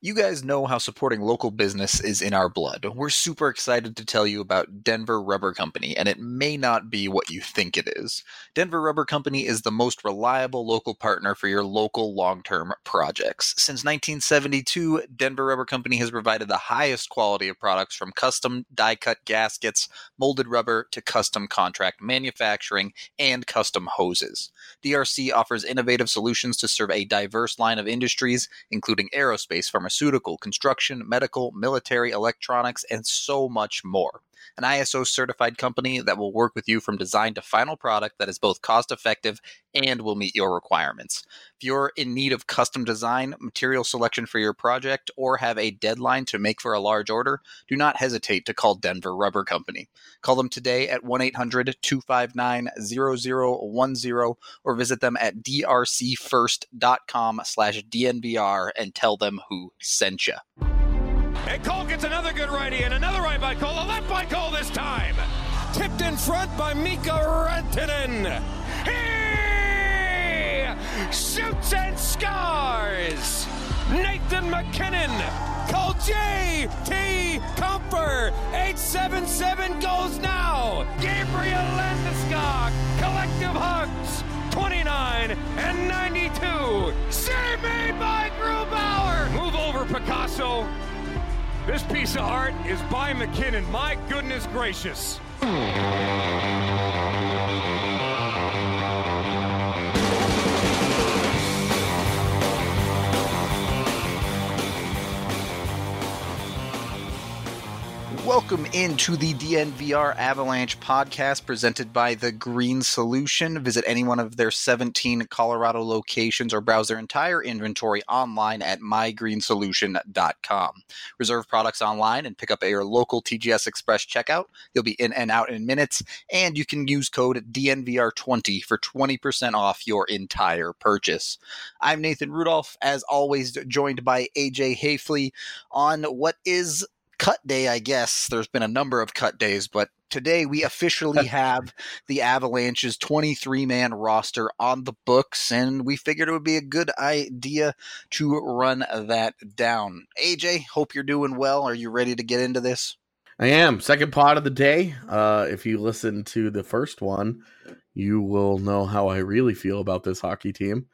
You guys know how supporting local business is in our blood. We're super excited to tell you about Denver Rubber Company, and it may not be what you think it is. Denver Rubber Company is the most reliable local partner for your local long-term projects. Since 1972, Denver Rubber Company has provided the highest quality of products from custom die-cut gaskets, molded rubber, to custom contract manufacturing, and custom hoses. DRC offers innovative solutions to serve a diverse line of industries, including aerospace, pharmaceutical, construction, medical, military, electronics, and so much more. An ISO certified company that will work with you from design to final product that is both cost effective and will meet your requirements. If you're in need of custom design, material selection for your project, or have a deadline to make for a large order, do not hesitate to call Denver Rubber Company. Call them today at 1-800-259-0010 or visit them at drcfirst.com/DNVR and tell them who sent you. And Cole gets another good righty and another right by Cole, a left by Cole this time. Tipped in front by Mika Rantanen. He shoots and scores. Nathan MacKinnon. Cole J.T. Comfer. 877 goes now. Gabriel Landeskog. Collective hugs. 29 and 92. Save made by Grubauer. Move over, Picasso. This piece of art is by McKinnon. My goodness gracious. Welcome into the DNVR Avalanche podcast presented by The Green Solution. Visit any one of their 17 Colorado locations or browse their entire inventory online at mygreensolution.com. Reserve products online and pick up at your local TGS Express checkout. You'll be in and out in minutes, and you can use code DNVR20 for 20% off your entire purchase. I'm Nathan Rudolph, as always, joined by AJ Hafley on what is cut day, I guess. There's been a number of cut days, but today we officially have the Avalanche's 23-man roster on the books, and we figured it would be a good idea to run that down. AJ, hope you're doing well. Are you ready to get into this? I am. Second pod of the day. If you listen to the first one, you will know how I really feel about this hockey team.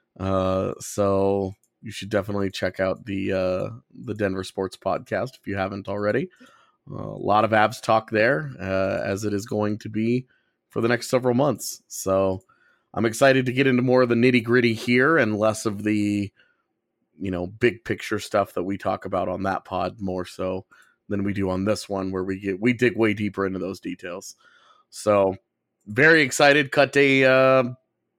So you should definitely check out the Denver Sports Podcast if you haven't already. A lot of Avs talk there, as it is going to be for the next several months. So I'm excited to get into more of the nitty gritty here and less of the, big picture stuff that we talk about on that pod more so than we do on this one, where we dig way deeper into those details. So very excited. Cut day.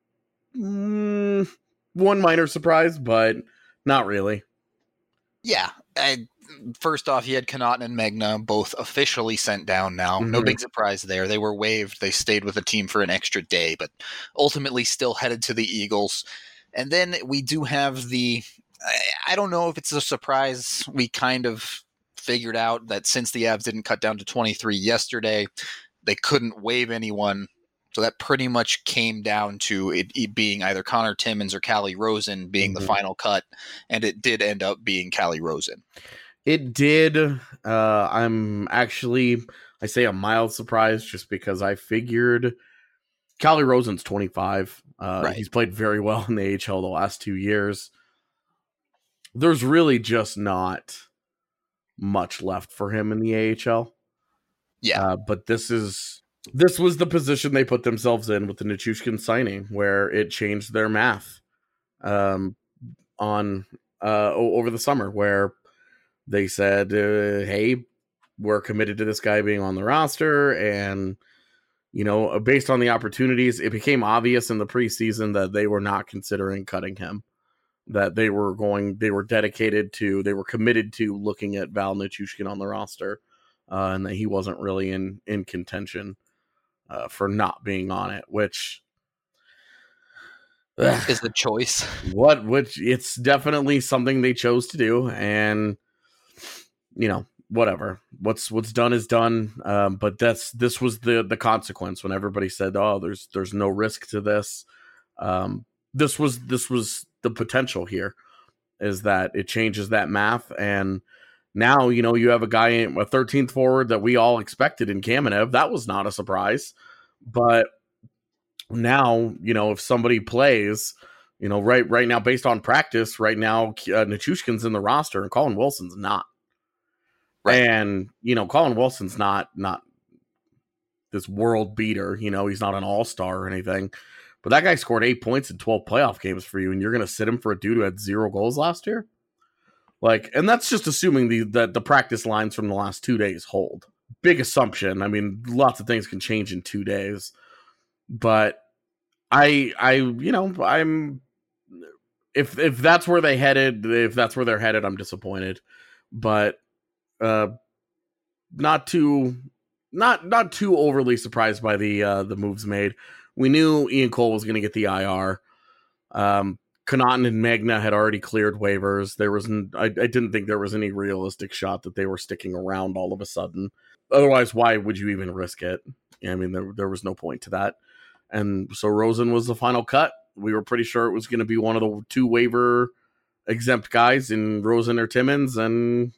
One minor surprise, but not really. Yeah. First off, you had Connaughton and Magna both officially sent down now. Mm-hmm. No big surprise there. They were waived. They stayed with the team for an extra day, but ultimately still headed to the Eagles. And then we do have I don't know if it's a surprise. We kind of figured out that since the Avs didn't cut down to 23 yesterday, they couldn't waive anyone. So that pretty much came down to it being either Connor Timmins or Calle Rosen being the final cut, and it did end up being Calle Rosen. It did. I'm actually, I say a mild surprise just because I figured Calle Rosen's 25. Right. He's played very well in the AHL the last 2 years. There's really just not much left for him in the AHL. Yeah. But this was the position they put themselves in with the Nichushkin signing, where it changed their math over the summer, where they said, hey, we're committed to this guy being on the roster. And, based on the opportunities, it became obvious in the preseason that they were not considering cutting him, that they were committed to looking at Val Nichushkin on the roster, and that he wasn't really in contention for not being on it, which is the choice. Which it's definitely something they chose to do, and whatever. What's done is done. But this was the consequence when everybody said, "Oh, there's no risk to this." This was the potential here. is that it changes that math. And now, you have a guy, a 13th forward that we all expected in Kamenev. That was not a surprise. But now, if somebody plays, right now, based on practice, right now, Nichushkin's in the roster and Colin Wilson's not. Right. And, Colin Wilson's not this world beater. He's not an all-star or anything. But that guy scored 8 points in 12 playoff games for you, and you're going to sit him for a dude who had 0 goals last year? And that's just assuming the practice lines from the last 2 days hold. Big assumption. I mean, lots of things can change in 2 days. But I'm if that's where they're headed, I'm disappointed. But not too overly surprised by the moves made. We knew Ian Cole was going to get the IR. Connaughton and Magna had already cleared waivers. I didn't think there was any realistic shot that they were sticking around all of a sudden. Otherwise, why would you even risk it? I mean, there was no point to that. And so Rosen was the final cut. We were pretty sure it was going to be one of the 2 waiver exempt guys in Rosen or Timmins. And,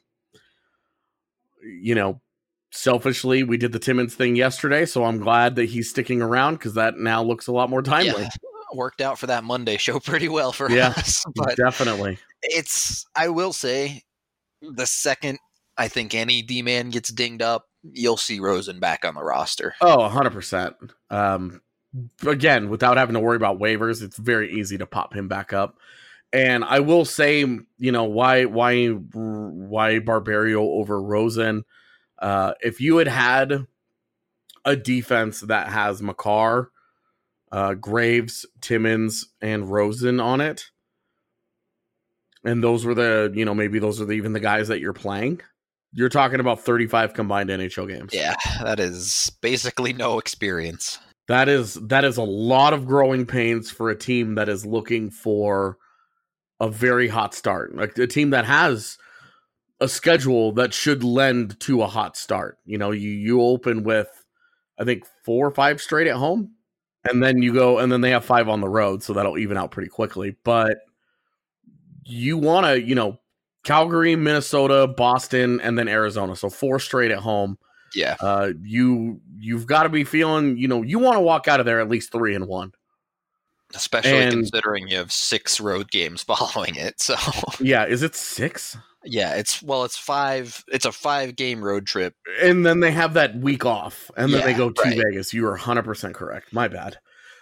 selfishly, we did the Timmins thing yesterday, so I'm glad that he's sticking around because that now looks a lot more timely. Yeah, worked out for that Monday show pretty well for us. But definitely. I will say, the second I think any D-man gets dinged up, you'll see Rosen back on the roster. Oh, 100%. Again, without having to worry about waivers, it's very easy to pop him back up. And I will say, why Barberio over Rosen? If you had a defense that has Makar, Graves, Timmins, and Rosen on it, and those were maybe those are even the guys that you're playing, you're talking about 35 combined NHL games. Yeah, that is basically no experience. That is a lot of growing pains for a team that is looking for a very hot start. Like a team that has a schedule that should lend to a hot start. You open with, I think, 4 or 5 straight at home, and then you go, and then they have 5 on the road, so that'll even out pretty quickly. But you want to, Calgary, Minnesota, Boston, and then Arizona, so 4 straight at home. Yeah. You've got to be feeling, you want to walk out of there at least 3-1. Especially considering you have 6 road games following it. So yeah, is it 6? Yeah, it's 5. It's a 5-game road trip, and then they have that week off, and then they go to Vegas. You are 100% correct. My bad.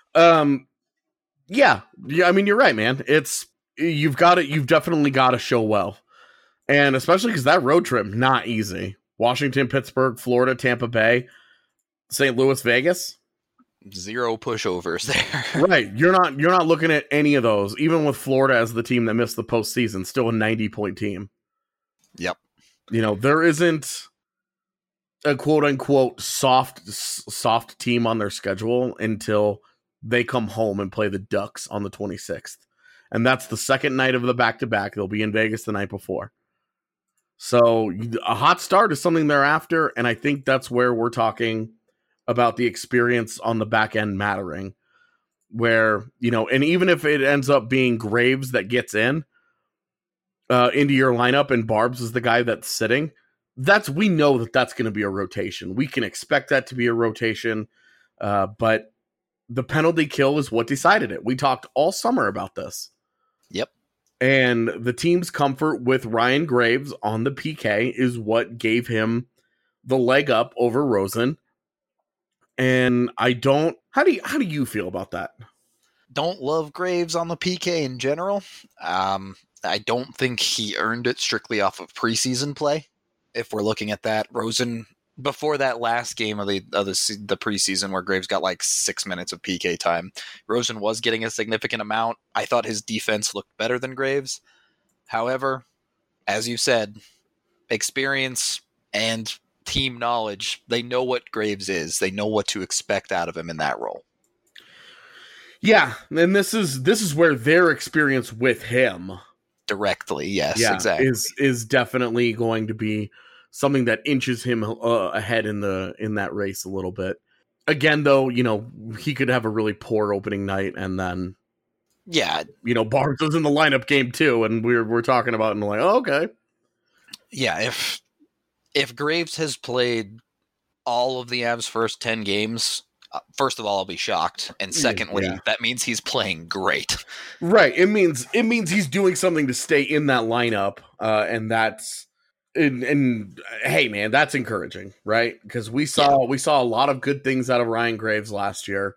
Yeah. I mean, you're right, man. You've definitely got to show well, and especially because that road trip not easy. Washington, Pittsburgh, Florida, Tampa Bay, St. Louis, Vegas. 0 pushovers there. Right. You're not looking at any of those, even with Florida as the team that missed the postseason, still a 90-point team. Yep. There isn't a quote unquote soft team on their schedule until they come home and play the Ducks on the 26th. And that's the second night of the back-to-back. They'll be in Vegas the night before. So a hot start is something they're after, and I think that's where we're talking about the experience on the back end mattering. Where, and even if it ends up being Graves that gets into your lineup and Barbs is the guy that's sitting, we know that's going to be a rotation. We can expect that to be a rotation, but the penalty kill is what decided it. We talked all summer about this. Yep. And the team's comfort with Ryan Graves on the PK is what gave him the leg up over Rosen. And how do you feel about that? Don't love Graves on the PK in general. I don't think he earned it strictly off of preseason play. If we're looking at that, Rosen, before that last game of the preseason where Graves got like 6 minutes of PK time, Rosen was getting a significant amount. I thought his defense looked better than Graves. However, as you said, experience and team knowledge, they know what Graves is. They know what to expect out of him in that role. Yeah, and this is where their experience with him directly, yes, exactly, is definitely going to be something that inches him ahead in that race a little bit. Again, though, he could have a really poor opening night and then Yeah. Barnes was in the lineup game too, and we're talking about it and like, oh, okay. Yeah, if Graves has played all of the Avs' first 10 games, first of all, I'll be shocked. And secondly, that means he's playing great. Right. It means he's doing something to stay in that lineup. And that's and hey man, that's encouraging, right? Because we saw a lot of good things out of Ryan Graves last year.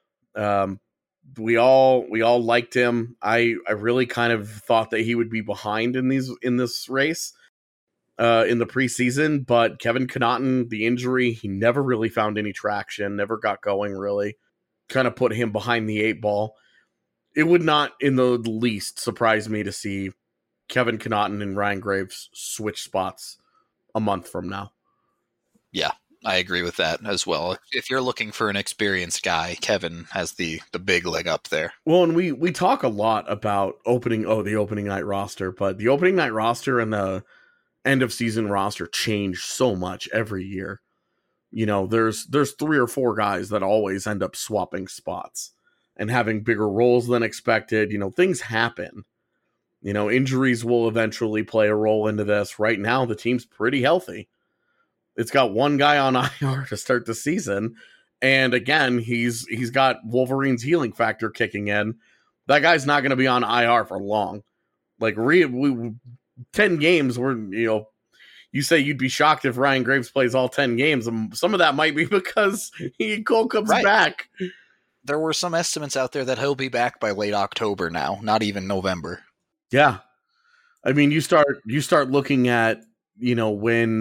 We all liked him. I really kind of thought that he would be behind in this race in the preseason, but Kevin Connauton, the injury, he never really found any traction, never got going really. Kind of put him behind the 8 ball. It would not in the least surprise me to see Kevin Connauton and Ryan Graves switch spots a month from now. Yeah, I agree with that as well. If you're looking for an experienced guy, Kevin has the big leg up there. Well, and we talk a lot about the opening night roster, but the opening night roster and the end of season roster change so much every year. There's 3 or 4 guys that always end up swapping spots and having bigger roles than expected. Things happen. Injuries will eventually play a role into this. Right now, the team's pretty healthy. It's got one guy on IR to start the season. And again, he's got Wolverine's healing factor kicking in. That guy's not going to be on IR for long. Like, 10 games where, you say you'd be shocked if Ryan Graves plays all 10 games. Some of that might be because Cole comes back. There were some estimates out there that he'll be back by late October now, not even November. Yeah. I mean, you start looking at, when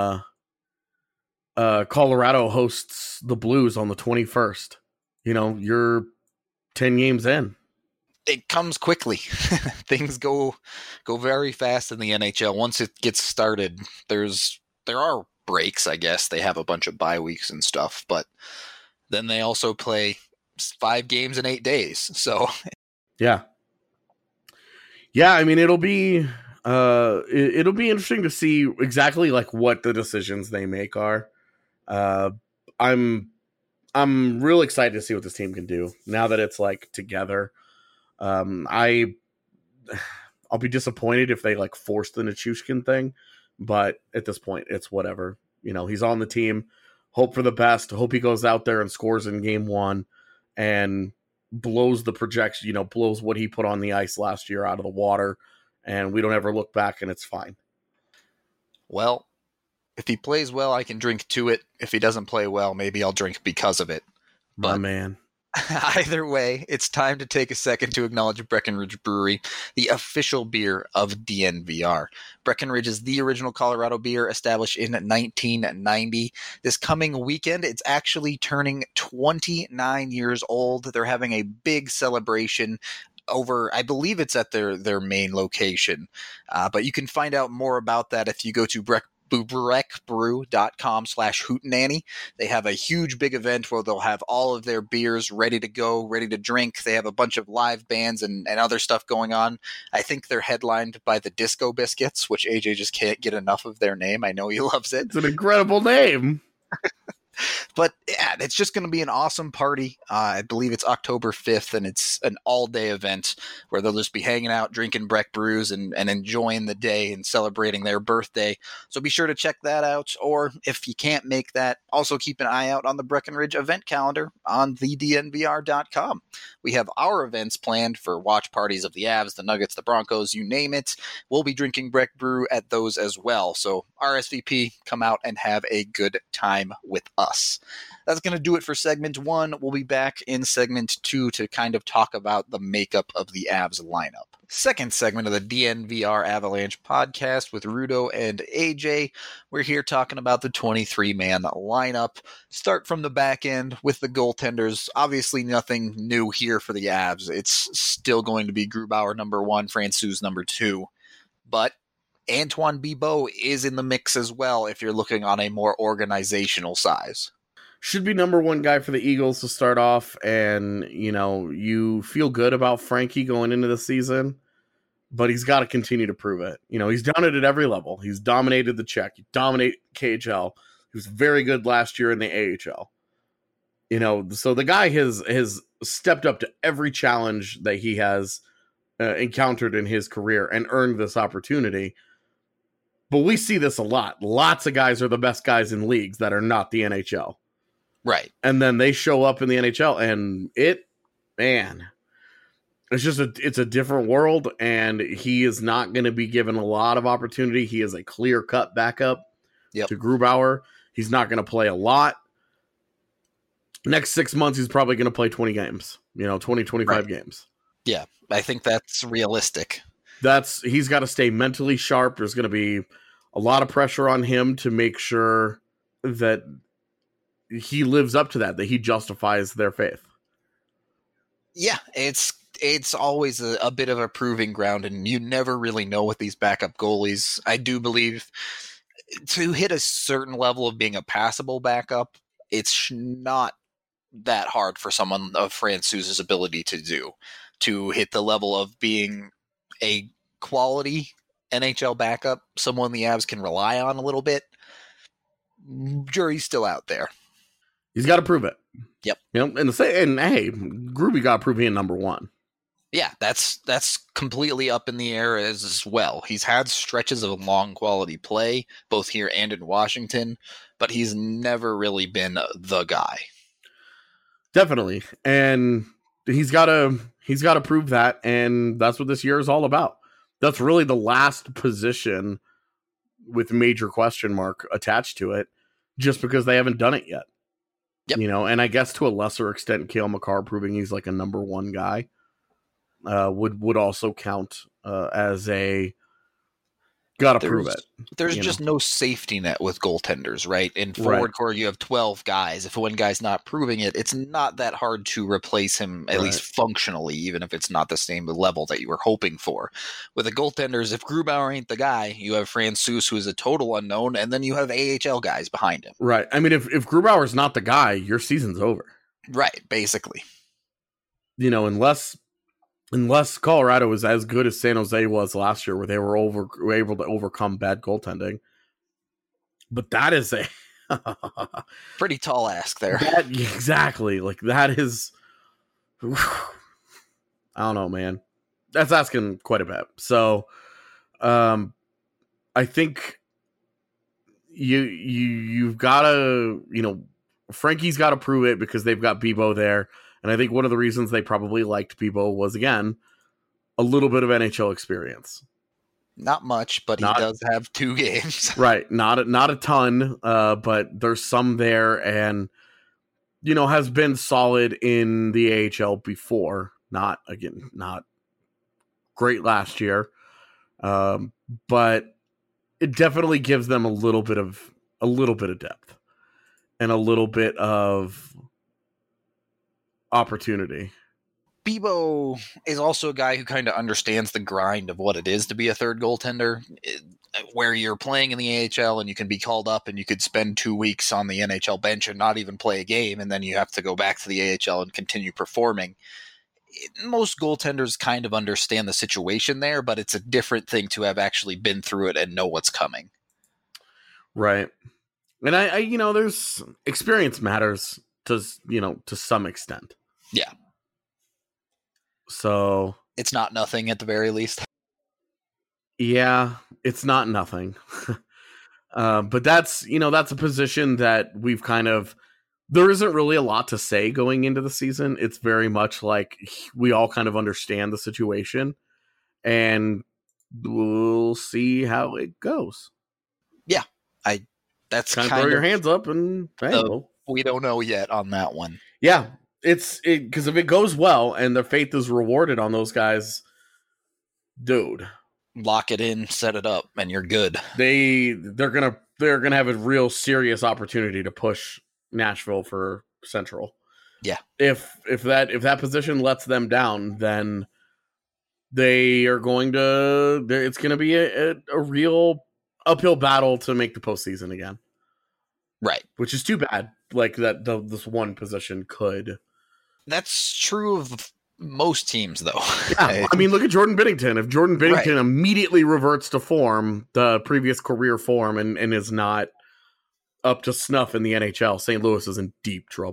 Colorado hosts the Blues on the 21st, you're 10 games in. It comes quickly. Things go very fast in the NHL. Once it gets started, there are breaks, I guess. They have a bunch of bye weeks and stuff, but then they also play 5 games in 8 days. So yeah. I mean, it'll be interesting to see exactly like what the decisions they make are. I'm real excited to see what this team can do now that it's like together. I'll be disappointed if they like force the Nichushkin thing, but at this point it's whatever. He's on the team. Hope for the best. Hope he goes out there and scores in game 1 and blows the projection, blows what he put on the ice last year out of the water, and we don't ever look back and it's fine. Well, if he plays well, I can drink to it. If he doesn't play well, maybe I'll drink because of it. My man. Either way, it's time to take a second to acknowledge Breckenridge Brewery, the official beer of DNVR. Breckenridge is the original Colorado beer established in 1990. This coming weekend, it's actually turning 29 years old. They're having a big celebration over, I believe it's at their main location. But you can find out more about that if you go to breckbrew.com/hootenanny. They have a huge big event where they'll have all of their beers ready to go, ready to drink. They have a bunch of live bands and other stuff going on. I think they're headlined by the Disco Biscuits, which AJ just can't get enough of their name. I know he loves it. It's an incredible name. But yeah, it's just going to be an awesome party. I believe it's October 5th, and it's an all-day event where they'll just be hanging out, drinking Breck brews, and enjoying the day and celebrating their birthday. So be sure to check that out. Or if you can't make that, also keep an eye out on the Breckenridge event calendar on thednvr.com. We have our events planned for watch parties of the Avs, the Nuggets, the Broncos, you name it. We'll be drinking Breck brew at those as well. So RSVP, come out and have a good time with us. That's going to do it for segment 1. We'll be back in segment 2 to kind of talk about the makeup of the Avs lineup. Second segment of the DNVR Avalanche podcast with Rudo and AJ. We're here talking about the 23-man lineup. Start from the back end with the goaltenders. Obviously nothing new here for the Avs. It's still going to be Grubauer number 1, Francouz number 2. But Antoine Bibeau is in the mix as well if you're looking on a more organizational size. Should be number 1 guy for the Eagles to start off, and, you feel good about Frankie going into the season, but he's got to continue to prove it. He's done it at every level. He's dominated the Czech. He dominated KHL. He was very good last year in the AHL. So the guy has stepped up to every challenge that he has encountered in his career and earned this opportunity. But we see this a lot. Lots of guys are the best guys in leagues that are not the NHL. Right. And then they show up in the NHL and it's a different world, and he is not going to be given a lot of opportunity. He is a clear-cut backup to Grubauer. He's not going to play a lot. Next 6 months, he's probably going to play 20 games, 20, 25 games. Yeah, I think that's realistic. He's got to stay mentally sharp. There's going to be a lot of pressure on him to make sure that he lives up to that he justifies their faith. Yeah, it's always a bit of a proving ground, and you never really know with these backup goalies. I do believe to hit a certain level of being a passable backup, it's not that hard for someone of Francouz's ability to do, to hit the level of being a quality NHL backup, someone the Avs can rely on a little bit. Jury's still out there. He's got to prove it. Yep. And hey, Groovy got to prove being number one. Yeah, that's completely up in the air as well. He's had stretches of long quality play, both here and in Washington, but he's never really been the guy. Definitely. And he's got to prove that, and that's what this year is all about. That's really the last position with major question mark attached to it, just because they haven't done it yet. Yep. And I guess to a lesser extent, Cale Makar proving he's like a number one guy would also count as a gotta prove it. There's just no safety net with goaltenders, right? In forward core, you have 12 guys. If one guy's not proving it, it's not that hard to replace him, at least functionally, even if it's not the same level that you were hoping for. With the goaltenders, if Grubauer ain't the guy, you have Francouz, who is a total unknown, and then you have AHL guys behind him. Right. I mean, if Grubauer's not the guy, your season's over. Right, basically. Unless Colorado was as good as San Jose was last year, where they were able to overcome bad goaltending. But that is a pretty tall ask there. Exactly. Like, that is, I don't know, man. That's asking quite a bit. So, I think you've got to, Frankie's got to prove it because they've got Bibeau there. And I think one of the reasons they probably liked Bibeau was, again, a little bit of NHL experience. Not much, but he does have 2 games. Right. Not a ton, but there's some there, and, has been solid in the AHL before. Not great last year. But it definitely gives them a little bit of depth and a little bit of opportunity. Bibeau is also a guy who kind of understands the grind of what it is to be a third goaltender, where you're playing in the AHL and you can be called up and you could spend 2 weeks on the NHL bench and not even play a game, and then you have to go back to the AHL and continue performing. Most goaltenders kind of understand the situation there, but it's a different thing to have actually been through it and know what's coming. Right. And I there's experience matters to some extent. Yeah. So it's not nothing at the very least. Yeah, it's not nothing. But that's a position that we've there isn't really a lot to say going into the season. It's very much like we all kind of understand the situation, and we'll see how it goes. Yeah. That's kind of throw your hands up and we don't know yet on that one. Yeah. Because if it goes well and the faith is rewarded on those guys, dude, lock it in, set it up, and you're good. They're gonna have a real serious opportunity to push Nashville for Central. Yeah. If that position lets them down, then they are going to. It's going to be a real uphill battle to make the postseason again. Right. Which is too bad. Like that, this one position could. That's true of most teams, though. Yeah, I mean, look at Jordan Binnington. If Jordan Binnington immediately reverts to form, the previous career form, and is not up to snuff in the NHL, St. Louis is in deep trouble.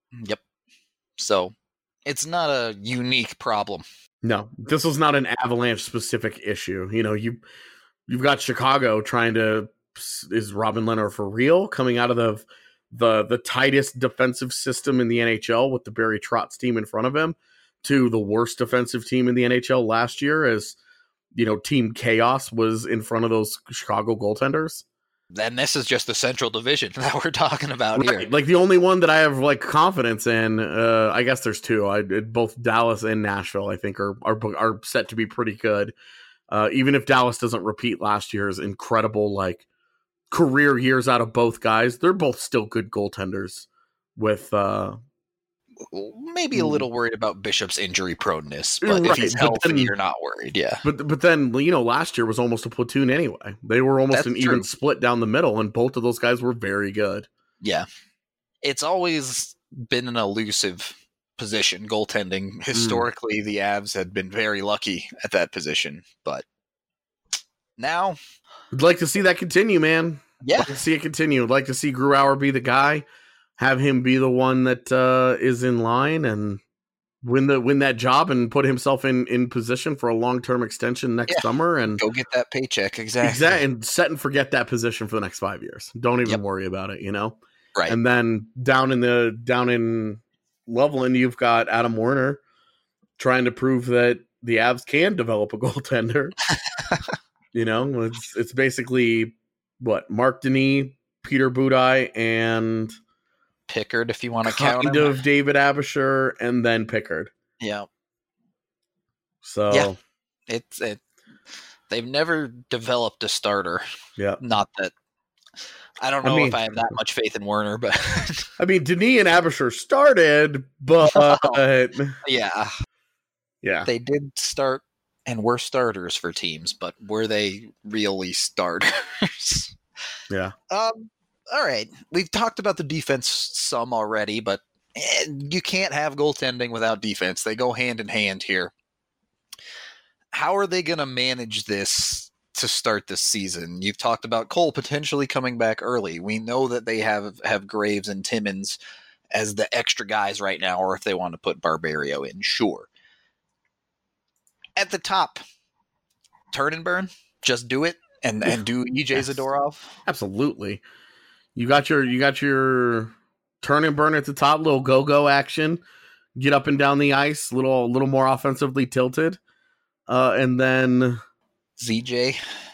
Yep. So it's not a unique problem. No, this was not an Avalanche specific issue. You've got Chicago trying to, is Robin Lehner for real, coming out of the tightest defensive system in the NHL with the Barry Trotz team in front of him to the worst defensive team in the NHL last year as, Team Chaos was in front of those Chicago goaltenders. Then this is just the Central Division that we're talking about here. Like the only one that I have like confidence in, I guess there's two. Both Dallas and Nashville, I think, are set to be pretty good. Even if Dallas doesn't repeat last year's incredible like career years out of both guys, they're both still good goaltenders. With maybe a little worried about Bishop's injury proneness, but if he's healthy, you're not worried. Yeah, but then last year was almost a platoon anyway. They were almost an even split down the middle, and both of those guys were very good. Yeah, it's always been an elusive position, goaltending. Historically, the Avs had been very lucky at that position, but now I'd like to see that continue, man. Yeah, I'd like to see it continue. I'd like to see Grubauer be the guy. Have him be the one that is in line and win that job and put himself in position for a long-term extension next summer and go get that paycheck. Exactly. And set and forget that position for the next 5 years. Don't even worry about it, Right. And then down in Loveland, you've got Adam Werner trying to prove that the Avs can develop a goaltender. It's basically what Mark Denis, Peter Budaj, and Pickard, if you want to count him. Kind of David Abisher, and then Pickard. Yeah. So they've never developed a starter. Yeah. Not that I don't know if I have that much faith in Werner, but Denis and Abisher started, but yeah, they did start and were starters for teams, but were they really starters? Yeah. All right, we've talked about the defense some already, but you can't have goaltending without defense. They go hand in hand here. How are they going to manage this to start this season? You've talked about Cole potentially coming back early. We know that they have Graves and Timmins as the extra guys right now, or if they want to put Barberio in, sure. At the top, turn and burn. Just do it and do EJ Zadorov. Absolutely. You got your turn and burn at the top, little go-go action, get up and down the ice, little more offensively tilted. And then ZJ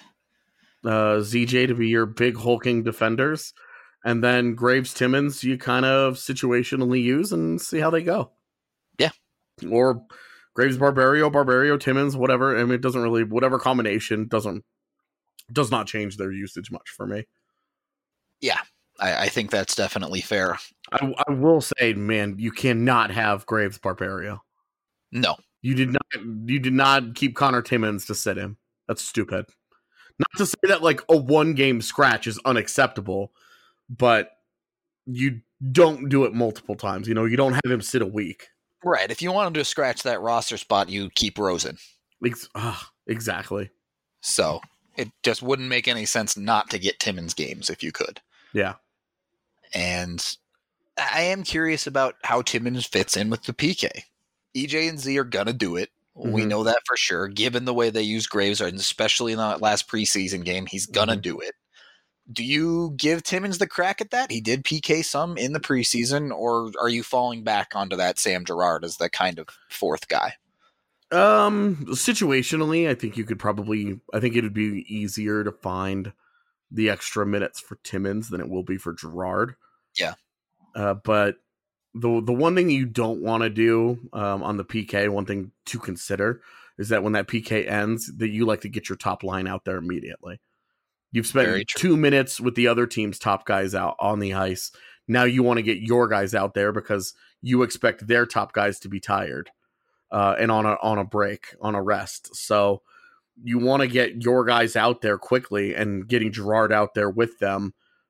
to be your big hulking defenders. And then Graves, Timmins, you kind of situationally use and see how they go. Yeah. Or Graves, Barberio, Timmins, whatever. I mean, it doesn't really, whatever combination does not change their usage much for me. Yeah, I think that's definitely fair. I will say, man, you cannot have Graves Barberio. No. You did not keep Connor Timmins to sit him. That's stupid. Not to say that like a 1-game scratch is unacceptable, but you don't do it multiple times. You don't have him sit a week. Right. If you wanted to scratch that roster spot, you keep Rosen. Exactly. So it just wouldn't make any sense not to get Timmins games if you could. Yeah. And I am curious about how Timmins fits in with the PK. EJ and Z are going to do it. Mm-hmm. We know that for sure. Given the way they use Graves, and especially in that last preseason game, he's going to do it. Do you give Timmins the crack at that? He did PK some in the preseason, or are you falling back onto that Sam Girard as the kind of fourth guy? Situationally, I think it would be easier to find the extra minutes for Timmins than it will be for Girard. Yeah. But the one thing you don't want to do on the PK, one thing to consider is that when that PK ends, that you like to get your top line out there immediately. You've spent 2 minutes with the other team's top guys out on the ice. Now you want to get your guys out there because you expect their top guys to be tired and on a break, on a rest. So you want to get your guys out there quickly, and getting Girard out there with them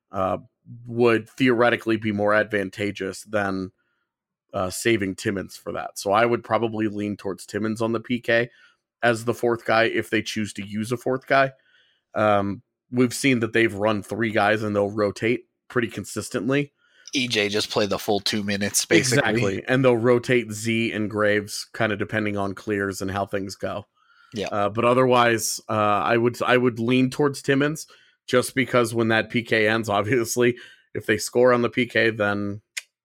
would theoretically be more advantageous than saving Timmins for that. So I would probably lean towards Timmins on the PK as the fourth guy if they choose to use a fourth guy. We've seen that they've run 3 guys and they'll rotate pretty consistently. EJ just play the full 2 minutes, basically. Exactly. And they'll rotate Z and Graves kind of depending on clears and how things go. Yeah. But otherwise, I would lean towards Timmins just because when that PK ends, obviously, if they score on the PK, then,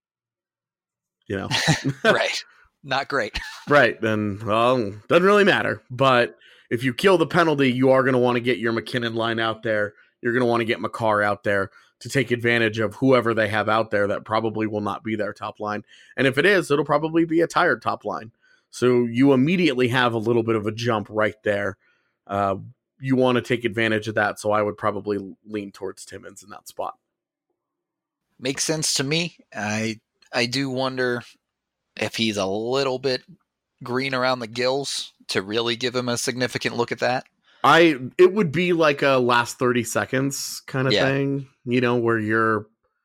Right. Not great. Right. Then, well, doesn't really matter. But if you kill the penalty, you are going to want to get your McKinnon line out there. You're going to want to get Makar out there to take advantage of whoever they have out there that probably will not be their top line. And if it is, it'll probably be a tired top line. So you immediately have a little bit of a jump right there. You want to take advantage of that. So I would probably lean towards Timmins in that spot. Makes sense to me. I do wonder if he's a little bit green around the gills to really give him a significant look at that. It would be like a last 30 seconds kind of thing, where you're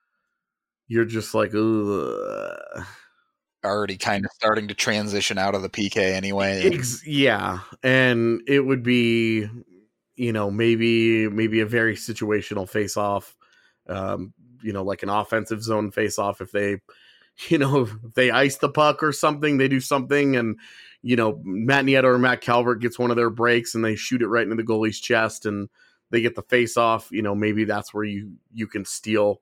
just like, ugh. Already kind of starting to transition out of the PK anyway. Yeah. And it would be, maybe a very situational face-off, like an offensive zone face-off. If they, if they ice the puck or something, they do something and, Matt Nieto or Matt Calvert gets one of their breaks and they shoot it right into the goalie's chest and they get the face-off, maybe that's where you can steal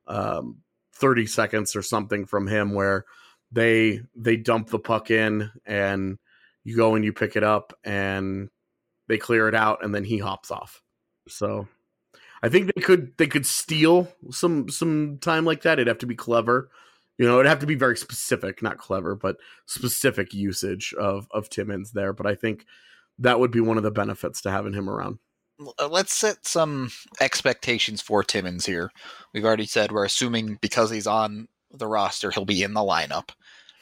30 seconds or something from him where they dump the puck in and you go and you pick it up and they clear it out and then he hops off. So I think they could steal some time like that. It'd have to be clever. It'd have to be very specific, not clever, but specific usage of Timmins there. But I think that would be one of the benefits to having him around. Let's set some expectations for Timmins here. We've already said we're assuming because he's on the roster, he'll be in the lineup.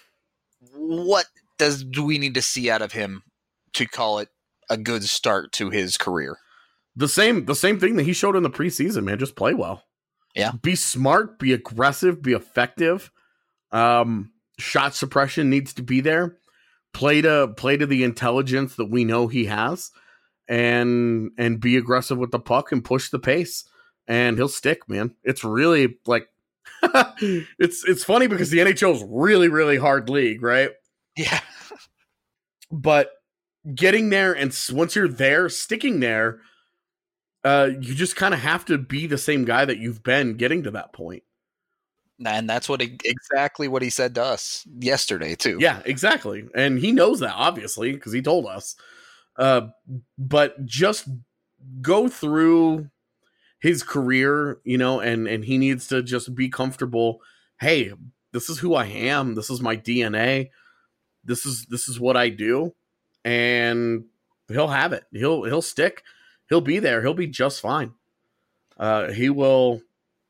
What do we need to see out of him to call it a good start to his career? The same thing that he showed in the preseason, man. Just play well. Yeah. Be smart, be aggressive, be effective. Shot suppression needs to be there. Play to the intelligence that we know he has and be aggressive with the puck and push the pace. And he'll stick, man. It's really like it's funny because the NHL is really, really hard league, right? Yeah. But getting there and once you're there, sticking there, you just kind of have to be the same guy that you've been getting to that point. And that's exactly what he said to us yesterday, too. Yeah, exactly. And he knows that, obviously, because he told us. But just go through his career, and he needs to just be comfortable. Hey, this is who I am. This is my DNA. This is what I do. And he'll have it. He'll stick. He'll be there. He'll be just fine. He'll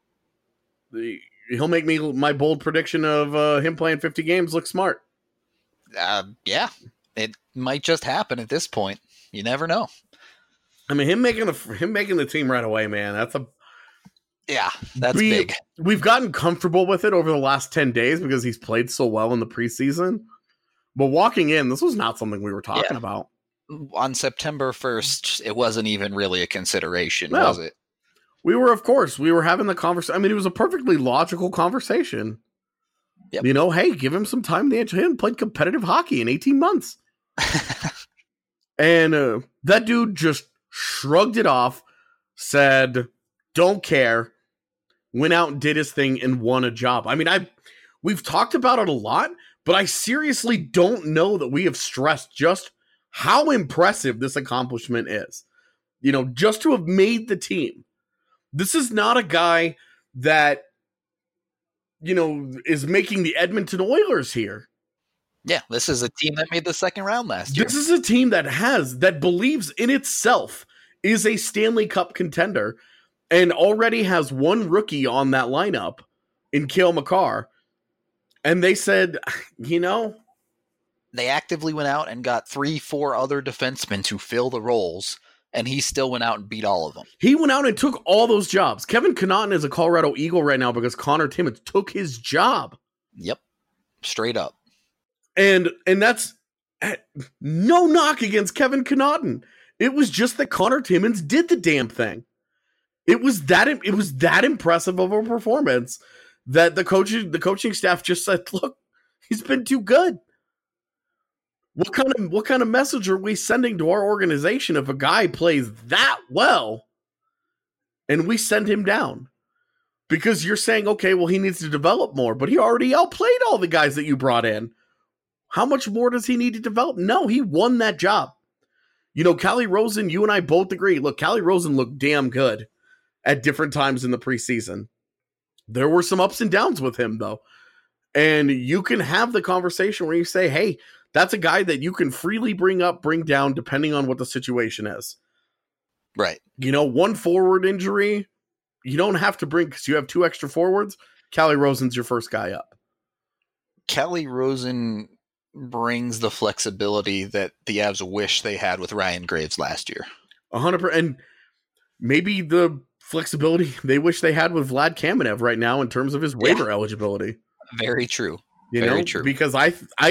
make me my bold prediction of him playing 50 games look smart. Yeah, it might just happen at this point. You never know. I mean, him making the team right away, man. That's big. We've gotten comfortable with it over the last 10 days because he's played so well in the preseason. But walking in, this was not something we were talking about. On September 1st, it wasn't even really a consideration, was it? We were having the conversation. I mean, it was a perfectly logical conversation. Yep. Hey, give him some time. He hadn't played competitive hockey in 18 months. And that dude just shrugged it off, said, don't care, went out and did his thing and won a job. I mean, we've talked about it a lot, but I seriously don't know that we have stressed just how impressive this accomplishment is. Just to have made the team. This is not a guy that, is making the Edmonton Oilers here. Yeah, this is a team that made the second round last year. This is a team that believes in itself, is a Stanley Cup contender, and already has one rookie on that lineup in Cale Makar. And they said, They actively went out and got 3-4 other defensemen to fill the roles, and he still went out and beat all of them. He went out and took all those jobs. Kevin Connauton is a Colorado Eagle right now because Connor Timmins took his job. Yep. Straight up. And that's no knock against Kevin Connauton. It was just that Connor Timmins did the damn thing. It was that impressive of a performance that the coaching staff just said, look, he's been too good. What kind of message are we sending to our organization if a guy plays that well and we send him down? Because you're saying, okay, well, he needs to develop more, but he already outplayed all the guys that you brought in. How much more does he need to develop? No, he won that job. You know, Calle Rosen, you and I both agree. Look, Calle Rosen looked damn good at different times in the preseason. There were some ups and downs with him, though. And you can have the conversation where you say, hey, that's a guy that you can freely bring up, bring down, depending on what the situation is. Right. You know, one forward injury, you don't have to bring, because you have 2 extra forwards. Calle Rosen's your first guy up. Calle Rosen brings the flexibility that the Avs wish they had with Ryan Graves last year. 100%. And maybe the flexibility they wish they had with Vlad Kamenev right now in terms of his waiver eligibility. Very true. Very true. Because I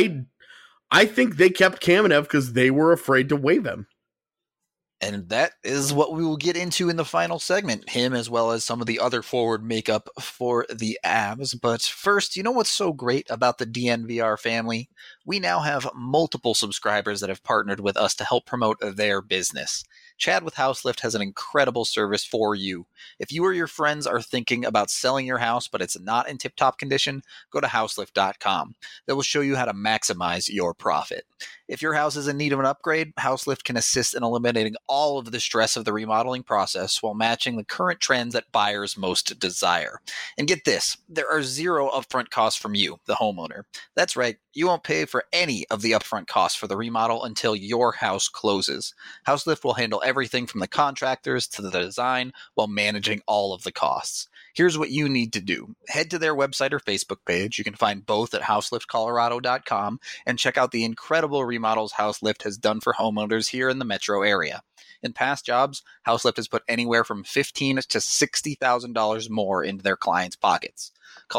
think they kept Kamenev because they were afraid to waive him. And that is what we will get into in the final segment, him as well as some of the other forward makeup for the Avs. But first, you know what's so great about the DNVR family? We now have multiple subscribers that have partnered with us to help promote their business. Chad with Houselift has an incredible service for you. If you or your friends are thinking about selling your house, but it's not in tip-top condition, go to houselift.com. That will show you how to maximize your profit. If your house is in need of an upgrade, Houselift can assist in eliminating all of the stress of the remodeling process while matching the current trends that buyers most desire. And get this, there are 0 upfront costs from you, the homeowner. That's right, you won't pay for any of the upfront costs for the remodel until your house closes. Houselift will handle everything from the contractors to the design while managing all of the costs. Here's what you need to do. Head to their website or Facebook page. You can find both at houseliftcolorado.com and check out the incredible remodels Houselift has done for homeowners here in the metro area. In past jobs, Houselift has put anywhere from $15,000 to $60,000 more into their clients' pockets. Call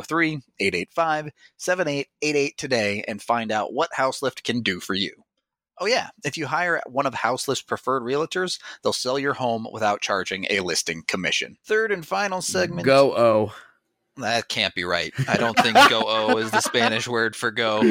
303-885-7888 today and find out what Houselift can do for you. Oh yeah, if you hire one of Houselift's preferred realtors, they'll sell your home without charging a listing commission. Third and final segment. Go-O. That can't be right. I don't think go-o is the Spanish word for go.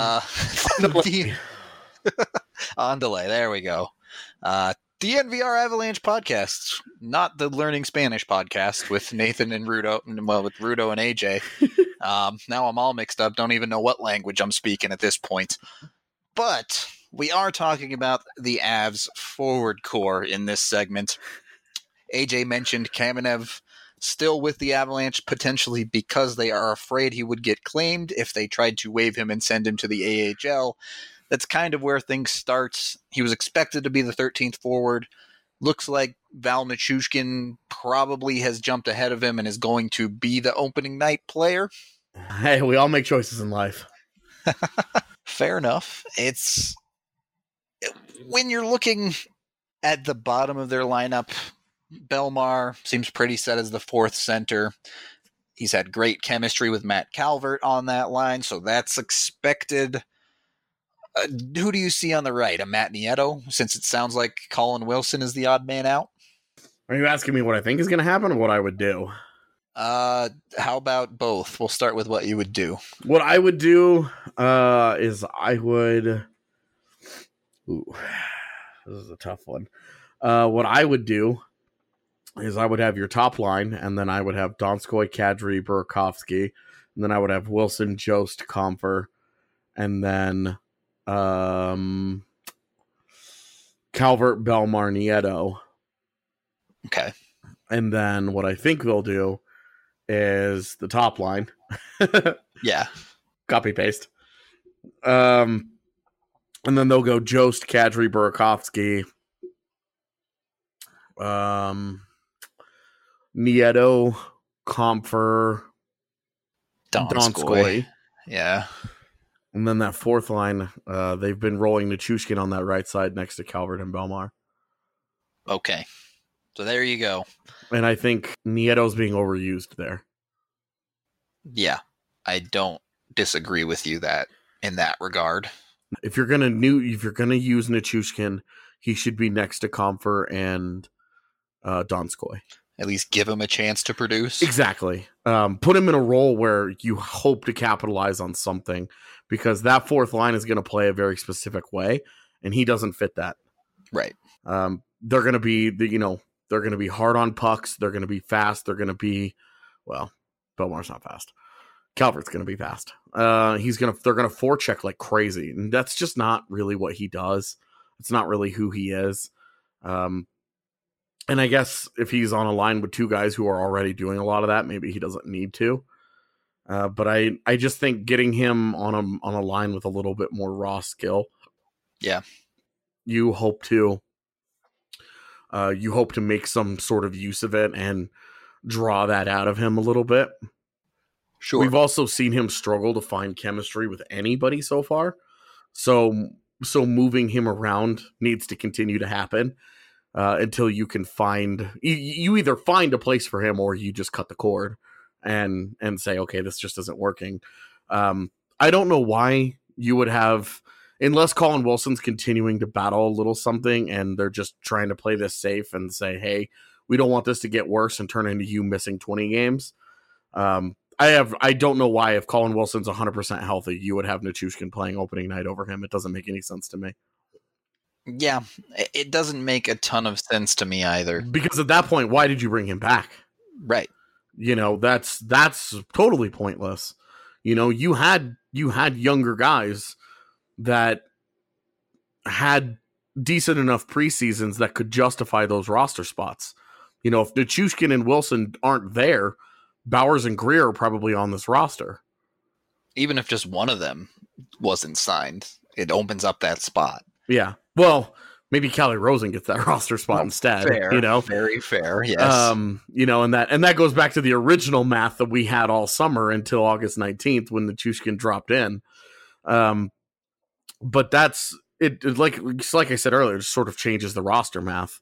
On delay. There we go. DNVR Avalanche podcast, not the Learning Spanish podcast with Nathan and Rudo, well, with Rudo and AJ. Now I'm all mixed up. Don't even know what language I'm speaking at this point. But we are talking about the Avs forward core in this segment. AJ mentioned Kamenev still with the Avalanche, potentially because they are afraid he would get claimed if they tried to waive him and send him to the AHL. That's kind of where things start. He was expected to be the 13th forward. Looks like Val Nichushkin probably has jumped ahead of him and is going to be the opening night player. Hey, we all make choices in life. Fair enough. It's when you're looking at the bottom of their lineup, Belmar seems pretty set as the 4th center. He's had great chemistry with Matt Calvert on that line, so that's expected. Who do you see on the right? A Matt Nieto, since it sounds like Colin Wilson is the odd man out? Are you asking me what I think is going to happen or what I would do? How about both? We'll start with what you would do. What I would do is I would... Ooh, this is a tough one. What I would do is I would have your top line, and then I would have Donskoy, Kadri, Burakovsky, and then I would have Wilson, Jost, Comfer, and then Calvert, Belmar, Nieto. Okay. And then what I think they'll do is the top line. Yeah. Copy paste. And then they'll go Jost, Kadri, Burakovsky, Nieto, Comfer, Donskoy. Yeah. And then that 4th line, they've been rolling Nichushkin on that right side next to Calvert and Belmar. Okay. So there you go. And I think Nieto's being overused there. Yeah. I don't disagree with you in that regard. If you're gonna use Nichushkin, he should be next to Comfer and Donskoy. At least give him a chance to produce. Exactly. Put him in a role where you hope to capitalize on something, because that fourth line is going to play a very specific way, and he doesn't fit that. Right. They're going to be they're going to be hard on pucks. They're going to be fast. They're going to be, well, Belmar's not fast. Calvert's going to be fast. They're going to forecheck like crazy, and that's just not really what he does. It's not really who he is. And I guess if he's on a line with two guys who are already doing a lot of that, maybe he doesn't need to. But I just think getting him on a line with a little bit more raw skill. Yeah. You hope to make some sort of use of it and draw that out of him a little bit. Sure. We've also seen him struggle to find chemistry with anybody so far. So moving him around needs to continue to happen. Until you can you either find a place for him or you just cut the cord and say, okay, this just isn't working. I don't know why you would have, unless Colin Wilson's continuing to battle a little something and they're just trying to play this safe and say, hey, we don't want this to get worse and turn into you missing 20 games. I don't know why, if Colin Wilson's 100% healthy, you would have Nichushkin playing opening night over him. It doesn't make any sense to me. Yeah, it doesn't make a ton of sense to me either. Because at that point, why did you bring him back? Right. That's totally pointless. You had younger guys that had decent enough preseasons that could justify those roster spots. If Nichushkin and Wilson aren't there, Bowers and Greer are probably on this roster. Even if just one of them wasn't signed, it opens up that spot. Yeah. Well, maybe Calle Rosen gets that roster spot instead. Fair, very fair. Yes. And that goes back to the original math that we had all summer until August 19th when the Nichushkin dropped in. But that's it. Like I said earlier, it just sort of changes the roster math.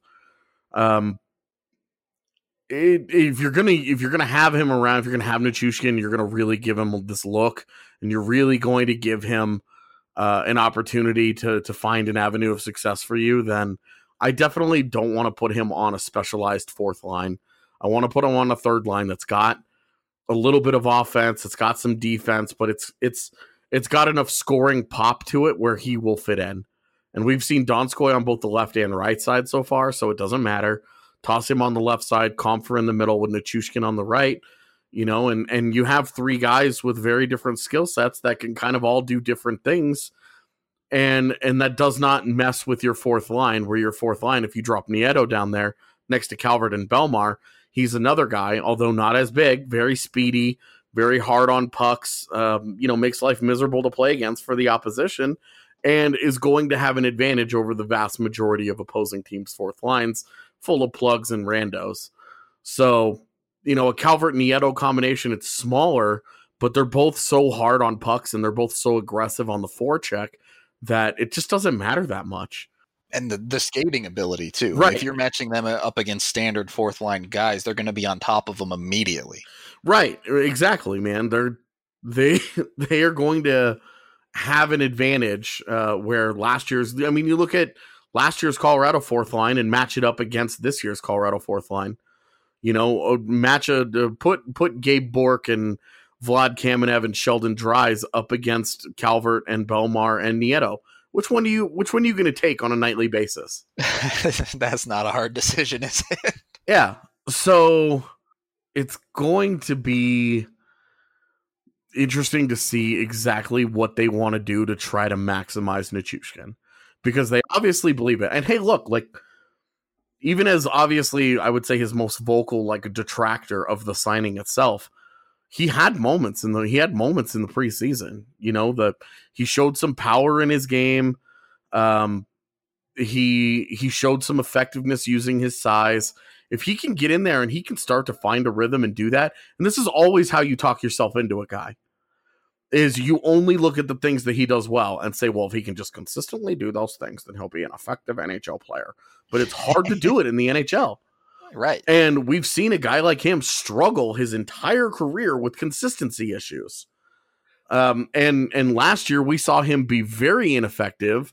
If you're gonna have him around, if you're gonna have Nichushkin, you're gonna really give him this look, and you're really going to give him an opportunity to find an avenue of success for you, then I definitely don't want to put him on a specialized fourth line. I want to put him on a third line that's got a little bit of offense, it's got some defense, but it's got enough scoring pop to it where he will fit in. And we've seen Donskoy on both the left and right side so far, so it doesn't matter. Toss him on the left side, Comfer in the middle with Nichushkin on the right. And you have three guys with very different skill sets that can kind of all do different things. And that does not mess with your fourth line, where your fourth line, if you drop Nieto down there next to Calvert and Belmar, he's another guy, although not as big, very speedy, very hard on pucks, makes life miserable to play against for the opposition, and is going to have an advantage over the vast majority of opposing teams' fourth lines, full of plugs and randos. So, a Calvert-Nieto combination, it's smaller, but they're both so hard on pucks and they're both so aggressive on the forecheck that it just doesn't matter that much. And the skating ability, too. Right. If you're matching them up against standard fourth-line guys, they're going to be on top of them immediately. Right. Exactly, man. They are going to have an advantage where you look at last year's Colorado fourth line and match it up against this year's Colorado fourth line. Put Gabe Bourque and Vlad Kamenev and Sheldon Dries up against Calvert and Belmar and Nieto. Which one are you going to take on a nightly basis? That's not a hard decision, is it? Yeah. So it's going to be interesting to see exactly what they want to do to try to maximize Nichushkin, because they obviously believe it. And hey, look, even as obviously I would say his most vocal detractor of the signing itself, he had moments in the preseason. He showed some power in his game. He showed some effectiveness using his size. If he can get in there and he can start to find a rhythm and do that, and this is always how you talk yourself into a guy, is you only look at the things that he does well and say, well, if he can just consistently do those things, then he'll be an effective NHL player. But it's hard to do it in the NHL. Right. And we've seen a guy like him struggle his entire career with consistency issues. And last year we saw him be very ineffective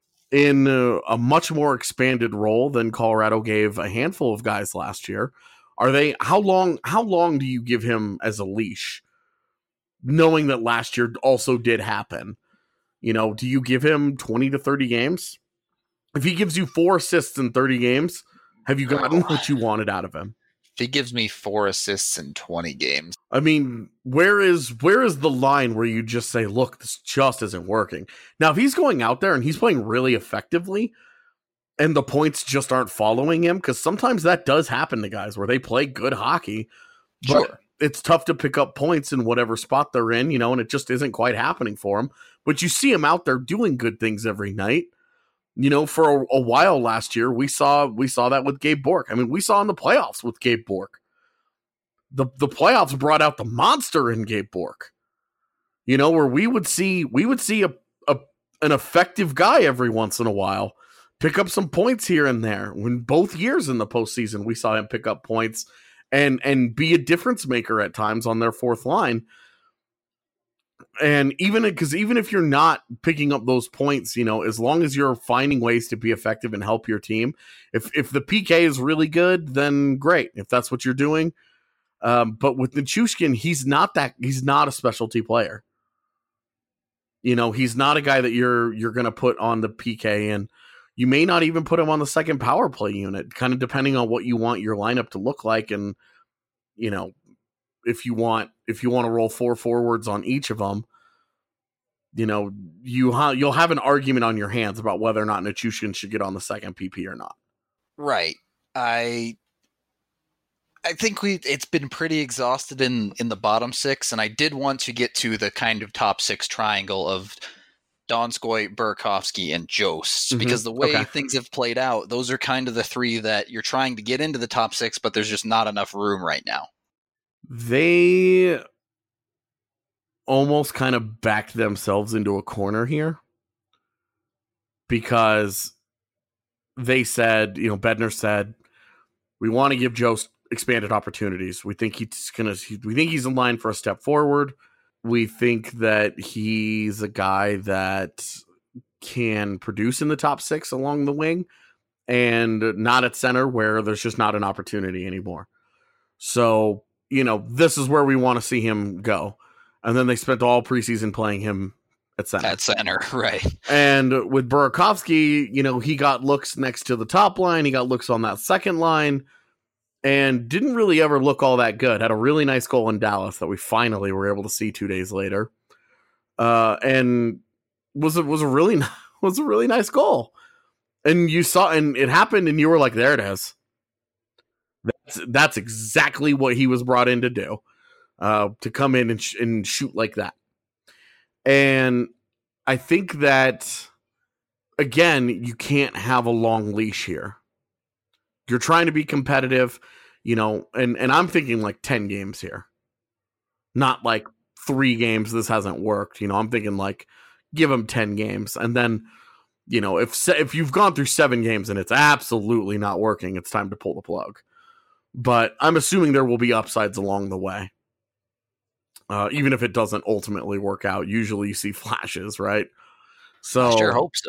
in a much more expanded role than Colorado gave a handful of guys last year, How long do you give him as a leash, knowing that last year also did happen? Do you give him 20 to 30 games? If he gives you 4 assists in 30 games, have you gotten what you wanted out of him? If he gives me 4 assists in 20 games. I mean, where is the line where you just say, look, this just isn't working? Now, if he's going out there and he's playing really effectively and the points just aren't following him, because sometimes that does happen to guys where they play good hockey, but it's tough to pick up points in whatever spot they're in, and it just isn't quite happening for them. But you see him out there doing good things every night. For a while last year, we saw that with Gabe Bourque. I mean, we saw in the playoffs with Gabe Bourque. The playoffs brought out the monster in Gabe Bourque. Where we would see an effective guy every once in a while pick up some points here and there. When both years in the postseason, we saw him pick up points and be a difference maker at times on their fourth line. And even if you're not picking up those points, as long as you're finding ways to be effective and help your team, if the PK is really good, then great. If that's what you're doing. But with Nichushkin, he's not a specialty player. He's not a guy that you're going to put on the PK, and you may not even put him on the second power play unit, kind of depending on what you want your lineup to look like. And, if you want to roll 4 forwards on each of them, you'll have an argument on your hands about whether or not Nichushkin should get on the second PP or not. Right. I think it's been pretty exhausted in the bottom 6, and I did want to get to the kind of top 6 triangle of Donskoy, Burakovsky, and Jost, because the way things have played out, those are kind of the 3 that you're trying to get into the top 6, but there's just not enough room right now. They almost kind of backed themselves into a corner here because they said, Bednar said, we want to give Jost expanded opportunities. We think he's in line for a step forward. We think that he's a guy that can produce in the top 6 along the wing and not at center where there's just not an opportunity anymore. So, this is where we want to see him go. And then they spent all preseason playing him at center. At center, right. And with Burakovsky, he got looks next to the top line. He got looks on that second line and didn't really ever look all that good. Had a really nice goal in Dallas that we finally were able to see 2 days later. And was a really nice goal. And you saw, and it happened and you were like, there it is. That's exactly what he was brought in to do, to come in and shoot like that. And I think that, again, you can't have a long leash here. You're trying to be competitive, and I'm thinking like 10 games here, not like 3 games. This hasn't worked. I'm thinking like give him 10 games. And then, if you've gone through 7 games and it's absolutely not working, it's time to pull the plug. But I'm assuming there will be upsides along the way. Even if it doesn't ultimately work out, usually you see flashes, right? So I sure hope so.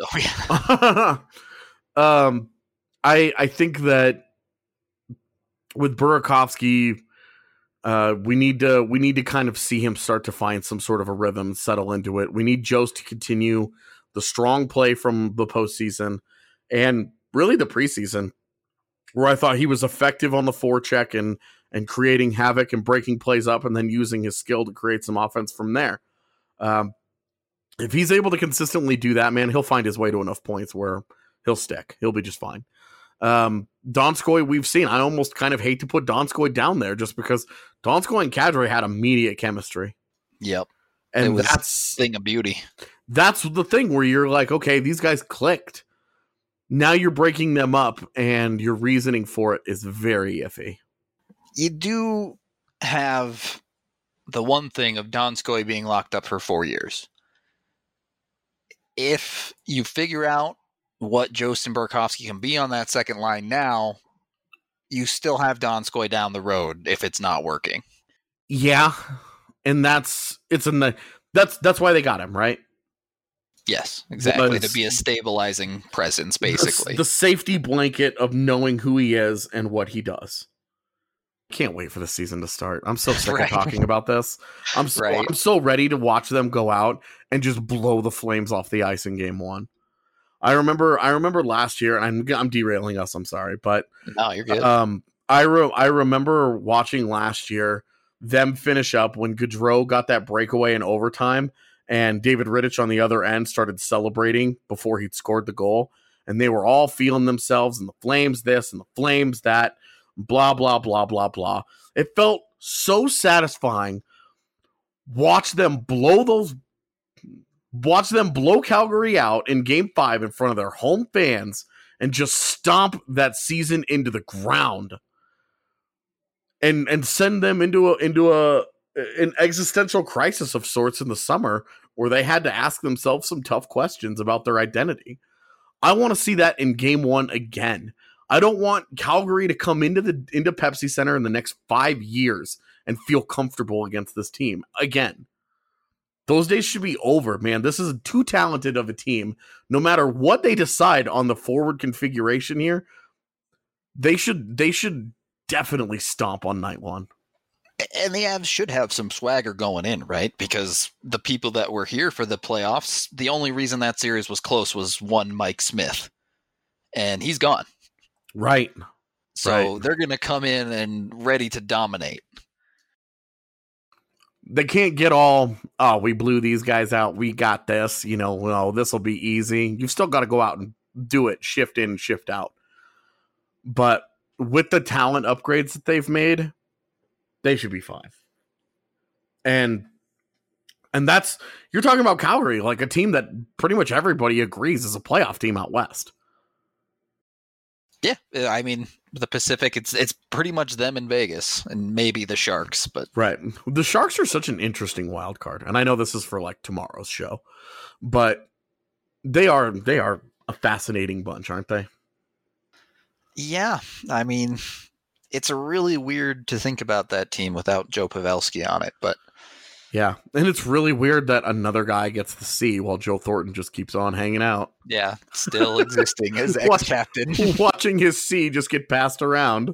I think that with Burakovsky, we need to kind of see him start to find some sort of a rhythm, settle into it. We need Jost to continue the strong play from the postseason and really the preseason, where I thought he was effective on the forecheck and creating havoc and breaking plays up and then using his skill to create some offense from there. If he's able to consistently do that, man, he'll find his way to enough points where he'll stick. He'll be just fine. Donskoy, we've seen. I almost kind of hate to put Donskoy down there just because Donskoy and Kadri had immediate chemistry. Yep. And that's a thing of beauty. That's the thing where you're like, okay, these guys clicked. Now you're breaking them up, and your reasoning for it is very iffy. You do have the one thing of Donskoy being locked up for 4 years. If you figure out what Jost and Burakovsky can be on that second line now, you still have Donskoy down the road if it's not working. Yeah, and that's why they got him, right? Yes, exactly. To be a stabilizing presence, basically. The safety blanket of knowing who he is and what he does. Can't wait for the season to start. I'm so sick Right. of talking about this. I'm Right. so ready to watch them go out and just blow the Flames off the ice in game 1. I remember last year, and I'm derailing us, I'm sorry, but No, you're good. I remember watching last year them finish up when Gaudreau got that breakaway in overtime, and David Rittich on the other end started celebrating before he'd scored the goal, and they were all feeling themselves, and the Flames this and the Flames that, blah, blah, blah, blah, blah. It felt so satisfying. Watch them blow Calgary out in game 5 in front of their home fans and just stomp that season into the ground and send them into an existential crisis of sorts in the summer where they had to ask themselves some tough questions about their identity. I want to see that in game 1 again. I don't want Calgary to come into Pepsi Center in the next 5 years and feel comfortable against this team again. Those days should be over, man. This is too talented of a team. No matter what they decide on the forward configuration here, they should definitely stomp on night 1. And the Avs should have some swagger going in, right? Because the people that were here for the playoffs, the only reason that series was close was one Mike Smith. And he's gone. Right. So they're going to come in and ready to dominate. They can't get all, we blew these guys out, we got this, this will be easy. You've still got to go out and do it, shift in, shift out. But with the talent upgrades that they've made, they should be fine. And that's, you're talking about Calgary, like a team that pretty much everybody agrees is a playoff team out west. Yeah, I mean, the Pacific, it's pretty much them in Vegas and maybe the Sharks, but right. The Sharks are such an interesting wild card, and I know this is for like tomorrow's show, but they are a fascinating bunch, aren't they? Yeah, I mean, it's really weird to think about that team without Joe Pavelski on it, but yeah, and it's really weird that another guy gets the C while Joe Thornton just keeps on hanging out. Yeah, still existing as ex-captain. Watching his C just get passed around.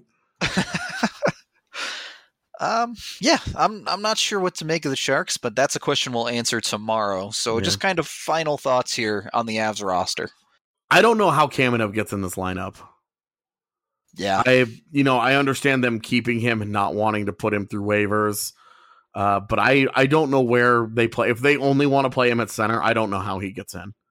Yeah, I'm not sure what to make of the Sharks, but that's a question we'll answer tomorrow. So just kind of final thoughts here on the Avs roster. I don't know how Kamenev gets in this lineup. Yeah. I understand them keeping him and not wanting to put him through waivers. But I don't know where they play. If they only want to play him at center, I don't know how he gets in.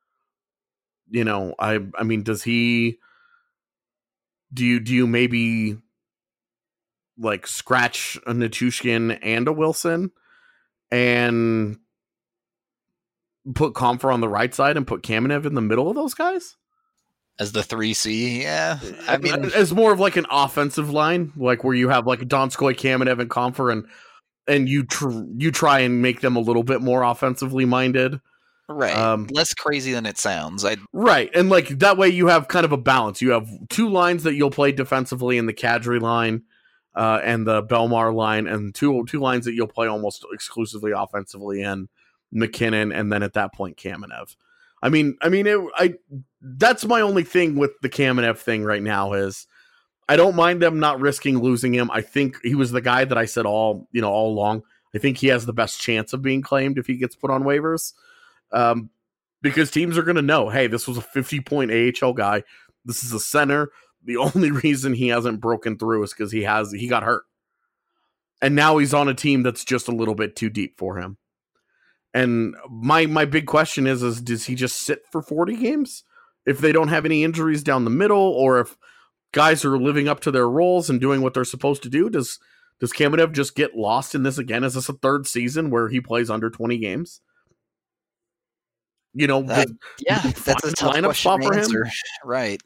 I mean, does he? Do you maybe like scratch a Nichushkin and a Wilson and put Comfer on the right side and put Kamenev in the middle of those guys? As the 3C, yeah. I mean, as more of like an offensive line, like where you have like Donskoy, Kamenev, and Comfer, and you try and make them a little bit more offensively minded. Right. Less crazy than it sounds. Right. And like that way you have kind of a balance. You have two lines that you'll play defensively in the Kadri line and the Belmar line, and two lines that you'll play almost exclusively offensively in McKinnon, and then at that point Kamenev. That's my only thing with the Kamenev thing right now is I don't mind them not risking losing him. I think he was the guy that I said all along. I think he has the best chance of being claimed if he gets put on waivers. Because teams are going to know, hey, this was a 50-point AHL guy. This is a center. The only reason he hasn't broken through is because he got hurt. And now he's on a team that's just a little bit too deep for him. And my big question is does he just sit for 40 games if they don't have any injuries down the middle, or if guys are living up to their roles and doing what they're supposed to do? Does Kamenev just get lost in this again? Is this a third season where he plays under 20 games? That's a tough lineup spot for answer. him. Right.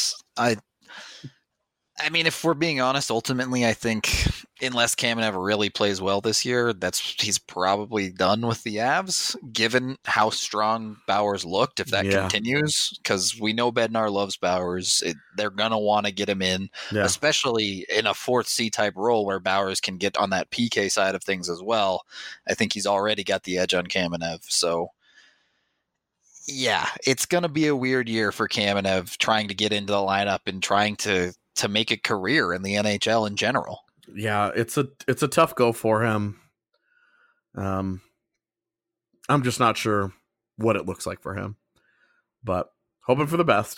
I mean, if we're being honest, ultimately, I think unless Kamenev really plays well this year, he's probably done with the Avs, given how strong Bowers looked, if that continues, because we know Bednar loves Bowers. They're going to want to get him in, especially in a fourth C type role where Bowers can get on that PK side of things as well. I think he's already got the edge on Kamenev. So, yeah, it's going to be a weird year for Kamenev trying to get into the lineup and trying to make a career in the NHL in general. Yeah, it's a tough go for him. I'm just not sure what it looks like for him, but hoping for the best.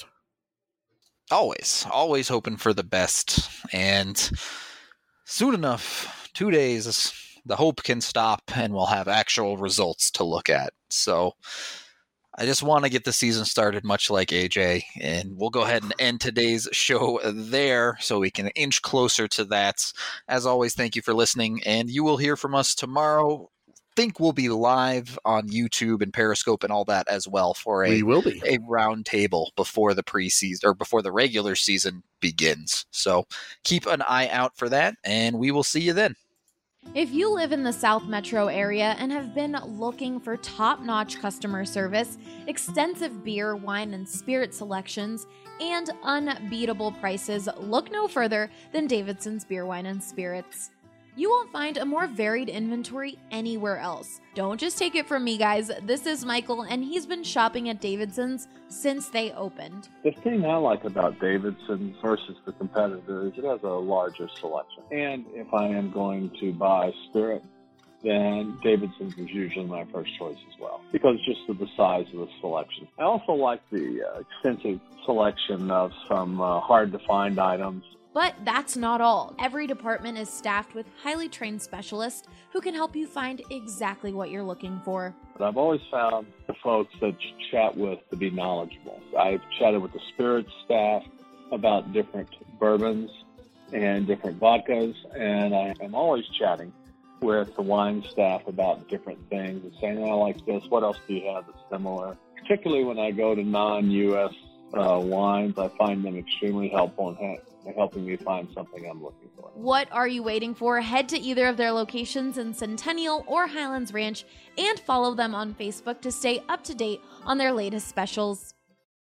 Always hoping for the best. And soon enough, 2 days, the hope can stop and we'll have actual results to look at. So I just want to get the season started, much like AJ, and we'll go ahead and end today's show there so we can inch closer to that. As always, thank you for listening, and you will hear from us tomorrow. Think we'll be live on YouTube and Periscope and all that as well for a round table before the preseason or before the regular season begins. So keep an eye out for that, and we will see you then. If you live in the South Metro area and have been looking for top-notch customer service, extensive beer, wine, and spirit selections, and unbeatable prices, look no further than Davidson's Beer, Wine, and Spirits. You won't find a more varied inventory anywhere else. Don't just take it from me, guys. This is Michael, and he's been shopping at Davidson's since they opened. The thing I like about Davidson's versus the competitors, it has a larger selection. And if I am going to buy spirit, then Davidson's is usually my first choice as well, because just of the size of the selection. I also like the extensive selection of some hard-to-find items. But that's not all. Every department is staffed with highly trained specialists who can help you find exactly what you're looking for. But I've always found the folks that you chat with to be knowledgeable. I've chatted with the spirits staff about different bourbons and different vodkas, and I am always chatting with the wine staff about different things and saying, I like this, what else do you have that's similar? Particularly when I go to non-U.S. wines, I find them extremely helpful in helping me find something I'm looking for. What are you waiting for? Head to either of their locations in Centennial or Highlands Ranch and follow them on Facebook to stay up to date on their latest specials.